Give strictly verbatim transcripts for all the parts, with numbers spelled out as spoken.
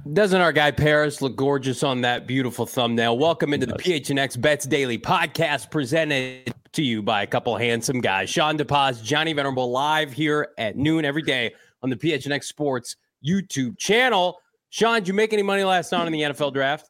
Doesn't our guy Paris look gorgeous on that beautiful thumbnail? Welcome into the P H N X Bets Daily podcast, presented to you by a couple handsome guys. Sean DePaz, Johnny Venerable, live here at noon every day on the P H N X Sports YouTube channel. Sean, did you make any money last night in the N F L draft?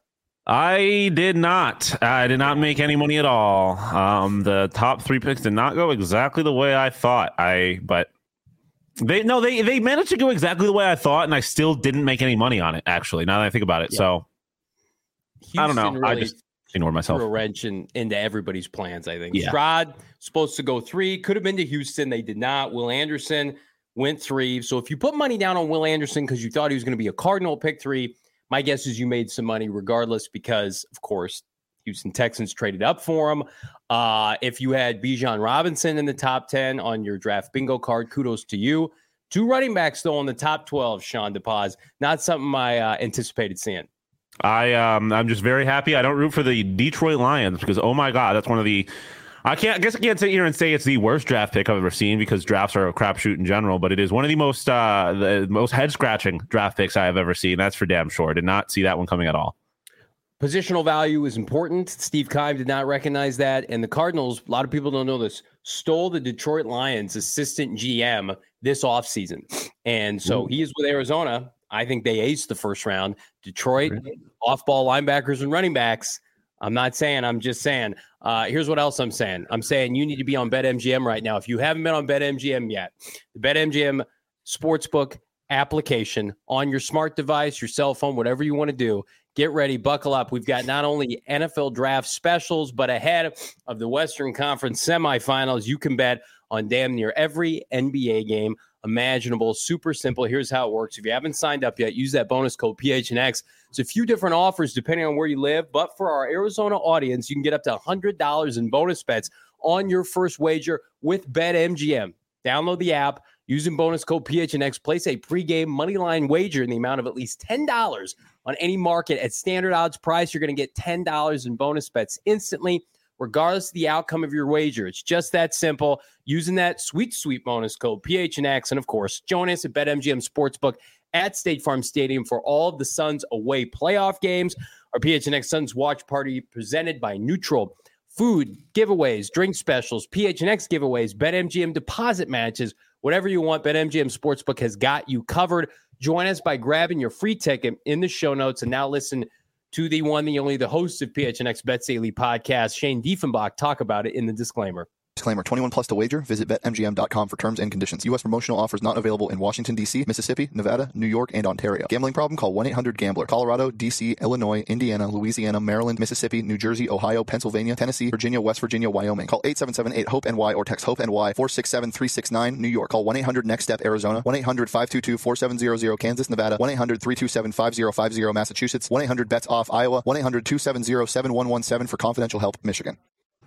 I did not. I did not make any money at all. Um, the top three picks did not go exactly the way I thought. I but. They no, they they managed to go exactly the way I thought, and I still didn't make any money on it. Actually, now that I think about it, yeah. so Houston I don't know. Really I just ignored myself. Threw a wrench in, into everybody's plans. I think yeah. Stroud supposed to go three, could have been to Houston. They did not. Will Anderson went three. So if you put money down on Will Anderson because you thought he was going to be a Cardinal pick three, my guess is you made some money regardless, because of course Houston Texans traded up for him. Uh, if you had Bijan Robinson in the top ten on your draft bingo card, kudos to you. Two running backs, though, in the top twelve, Sean DePaz. Not something I uh, anticipated seeing. I, um, I'm just very happy. I don't root for the Detroit Lions because, oh, my God, that's one of the – I can't I guess I can't sit here and say it's the worst draft pick I've ever seen because drafts are a crapshoot in general, but it is one of the most uh, the most head-scratching draft picks I have ever seen. That's for damn sure. Did not see that one coming at all. Positional value is important. Steve Keim did not recognize that. And the Cardinals, a lot of people don't know this, stole the Detroit Lions assistant G M this offseason. And so Ooh. he is with Arizona. I think they aced the first round. Detroit, really? Off-ball linebackers and running backs. I'm not saying, I'm just saying. Uh, here's what else I'm saying. I'm saying you need to be on BetMGM right now. If you haven't been on BetMGM yet, the BetMGM Sportsbook application on your smart device, your cell phone, whatever you want to do, get ready, buckle up. We've got not only N F L draft specials, but ahead of the Western Conference semifinals, you can bet on damn near every N B A game imaginable. Super simple. Here's how it works. If you haven't signed up yet, use that bonus code P H N X. It's a few different offers depending on where you live, but for our Arizona audience, you can get up to one hundred dollars in bonus bets on your first wager with BetMGM. Download the app. Using bonus code P H N X, place a pregame moneyline wager in the amount of at least ten dollars on any market at standard odds price. You're going to get ten dollars in bonus bets instantly, regardless of the outcome of your wager. It's just that simple. Using that sweet, sweet bonus code P H N X. And of course, join us at BetMGM Sportsbook at State Farm Stadium for all of the Suns away playoff games. Our P H N X Suns watch party presented by Neutral. Food, giveaways, drink specials, P H N X giveaways, BetMGM deposit matches, whatever you want, BetMGM Sportsbook has got you covered. Join us by grabbing your free ticket in the show notes. And now listen to the one, the only, the host of P H N X Bets Daily podcast, Shane Diefenbach, talk about it in the disclaimer. Disclaimer, twenty-one plus to wager. Visit Bet M G M dot com for terms and conditions. U S promotional offers not available in Washington, D C, Mississippi, Nevada, New York, and Ontario. Gambling problem? Call one eight hundred gambler. Colorado, D C, Illinois, Indiana, Louisiana, Maryland, Mississippi, New Jersey, Ohio, Pennsylvania, Tennessee, Virginia, West Virginia, Wyoming. Call eight seven seven eight hope N Y or text HOPE-NY four six seven three six nine. New York. Call one eight hundred next step Arizona. one eight hundred five two two four seven zero zero. Kansas, Nevada. one eight hundred three two seven five zero five zero. Massachusetts. one eight hundred bets off Iowa. one eight hundred two seven zero seven one one seven for confidential help, Michigan.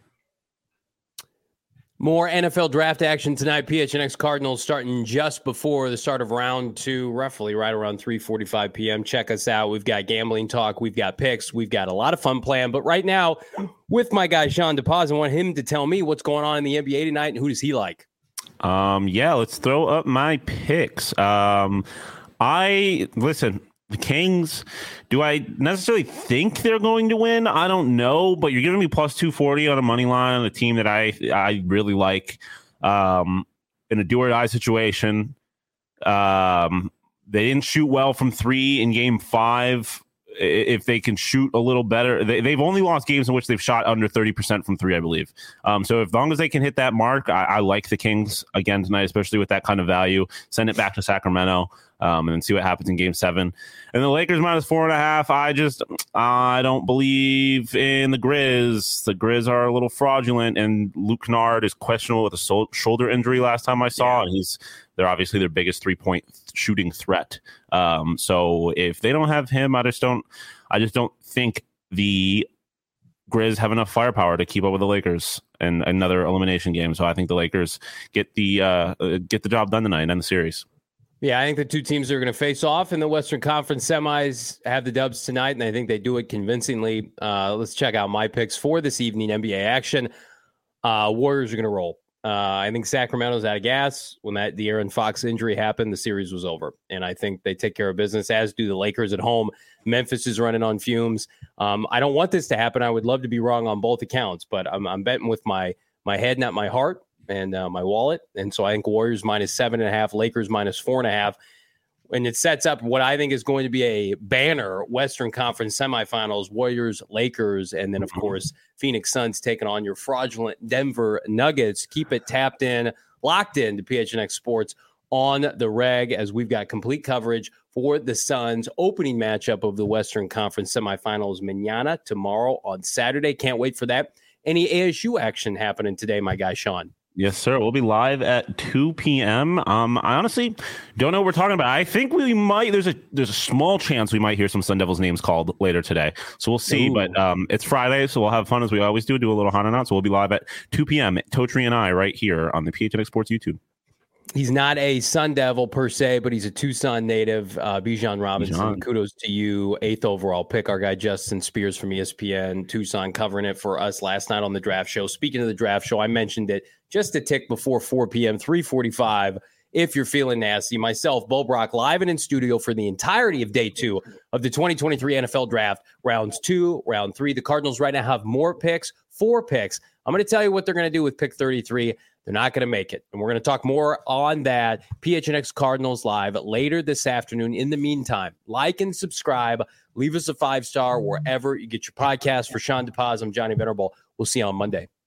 More N F L draft action tonight. P H N X Cardinals starting just before the start of round two, roughly right around three forty-five p.m. Check us out. We've got gambling talk. We've got picks. We've got a lot of fun planned. But right now, with my guy Sean DePaz, I want him to tell me what's going on in the N B A tonight and who does he like. Um, yeah, let's throw up my picks. Um, I listen. The Kings, do I necessarily think they're going to win? I don't know, but you're giving me plus two forty on a money line on a team that I I really like um, in a do or die situation. Um, they didn't shoot well from three in game five. If they can shoot a little better, they, they've only lost games in which they've shot under thirty percent from three, I believe. Um, so as long as they can hit that mark, I, I like the Kings again tonight, especially with that kind of value. Send it back to Sacramento. Um, and then see what happens in game seven. And the Lakers minus four and a half. I just, I don't believe in the Grizz. The Grizz are a little fraudulent, and Luke Kennard is questionable with a sol- shoulder injury last time I saw. Yeah. And he's, they're obviously their biggest three point shooting threat. Um, so if they don't have him, I just don't, I just don't think the Grizz have enough firepower to keep up with the Lakers in another elimination game. So I think the Lakers get the, uh, get the job done tonight and end the series. Yeah, I think the two teams that are going to face off in the Western Conference semis have the dubs tonight, and I think they do it convincingly. Uh, let's check out my picks for this evening N B A action. Uh, Warriors are going to roll. Uh, I think Sacramento's out of gas. When that the Aaron Fox injury happened, the series was over. And I think they take care of business, as do the Lakers at home. Memphis is running on fumes. Um, I don't want this to happen. I would love to be wrong on both accounts, but I'm, I'm betting with my my head, not my heart, and uh, my wallet. And so I think Warriors minus seven and a half, Lakers minus four and a half. And it sets up what I think is going to be a banner Western Conference semifinals, Warriors, Lakers, and then, of course, Phoenix Suns taking on your fraudulent Denver Nuggets. Keep it tapped in, locked in to P H N X Sports on the reg, as we've got complete coverage for the Suns opening matchup of the Western Conference semifinals mañana, tomorrow on Saturday. Can't wait for that. Any A S U action happening today, my guy, Sean? Yes, sir. We'll be live at two p.m. Um, I honestly don't know what we're talking about. I think we might. There's a there's a small chance we might hear some Sun Devils names called later today. So we'll see. Ooh. But um, it's Friday, so we'll have fun as we always do. Do a little hot and out. So we'll be live at two p.m. Totri and I right here on the P H N X Sports YouTube. He's not a Sun Devil per se, but he's a Tucson native. Uh, Bijan Robinson, Bijan. Kudos to you. Eighth overall pick. Our guy Justin Spears from E S P N, Tucson, covering it for us last night on the draft show. Speaking of the draft show, I mentioned it just a tick before four p.m., three forty-five. If you're feeling nasty, myself, Bo Brock, live and in studio for the entirety of day two of the twenty twenty-three N F L draft, rounds two, round three. The Cardinals right now have more picks, four picks. I'm going to tell you what they're going to do with pick thirty-three. They're not going to make it. And we're going to talk more on that. P H N X Cardinals live later this afternoon. In the meantime, like and subscribe. Leave us a five-star wherever you get your podcast. For Sean DePaz, I'm Johnny Venerable. We'll see you on Monday.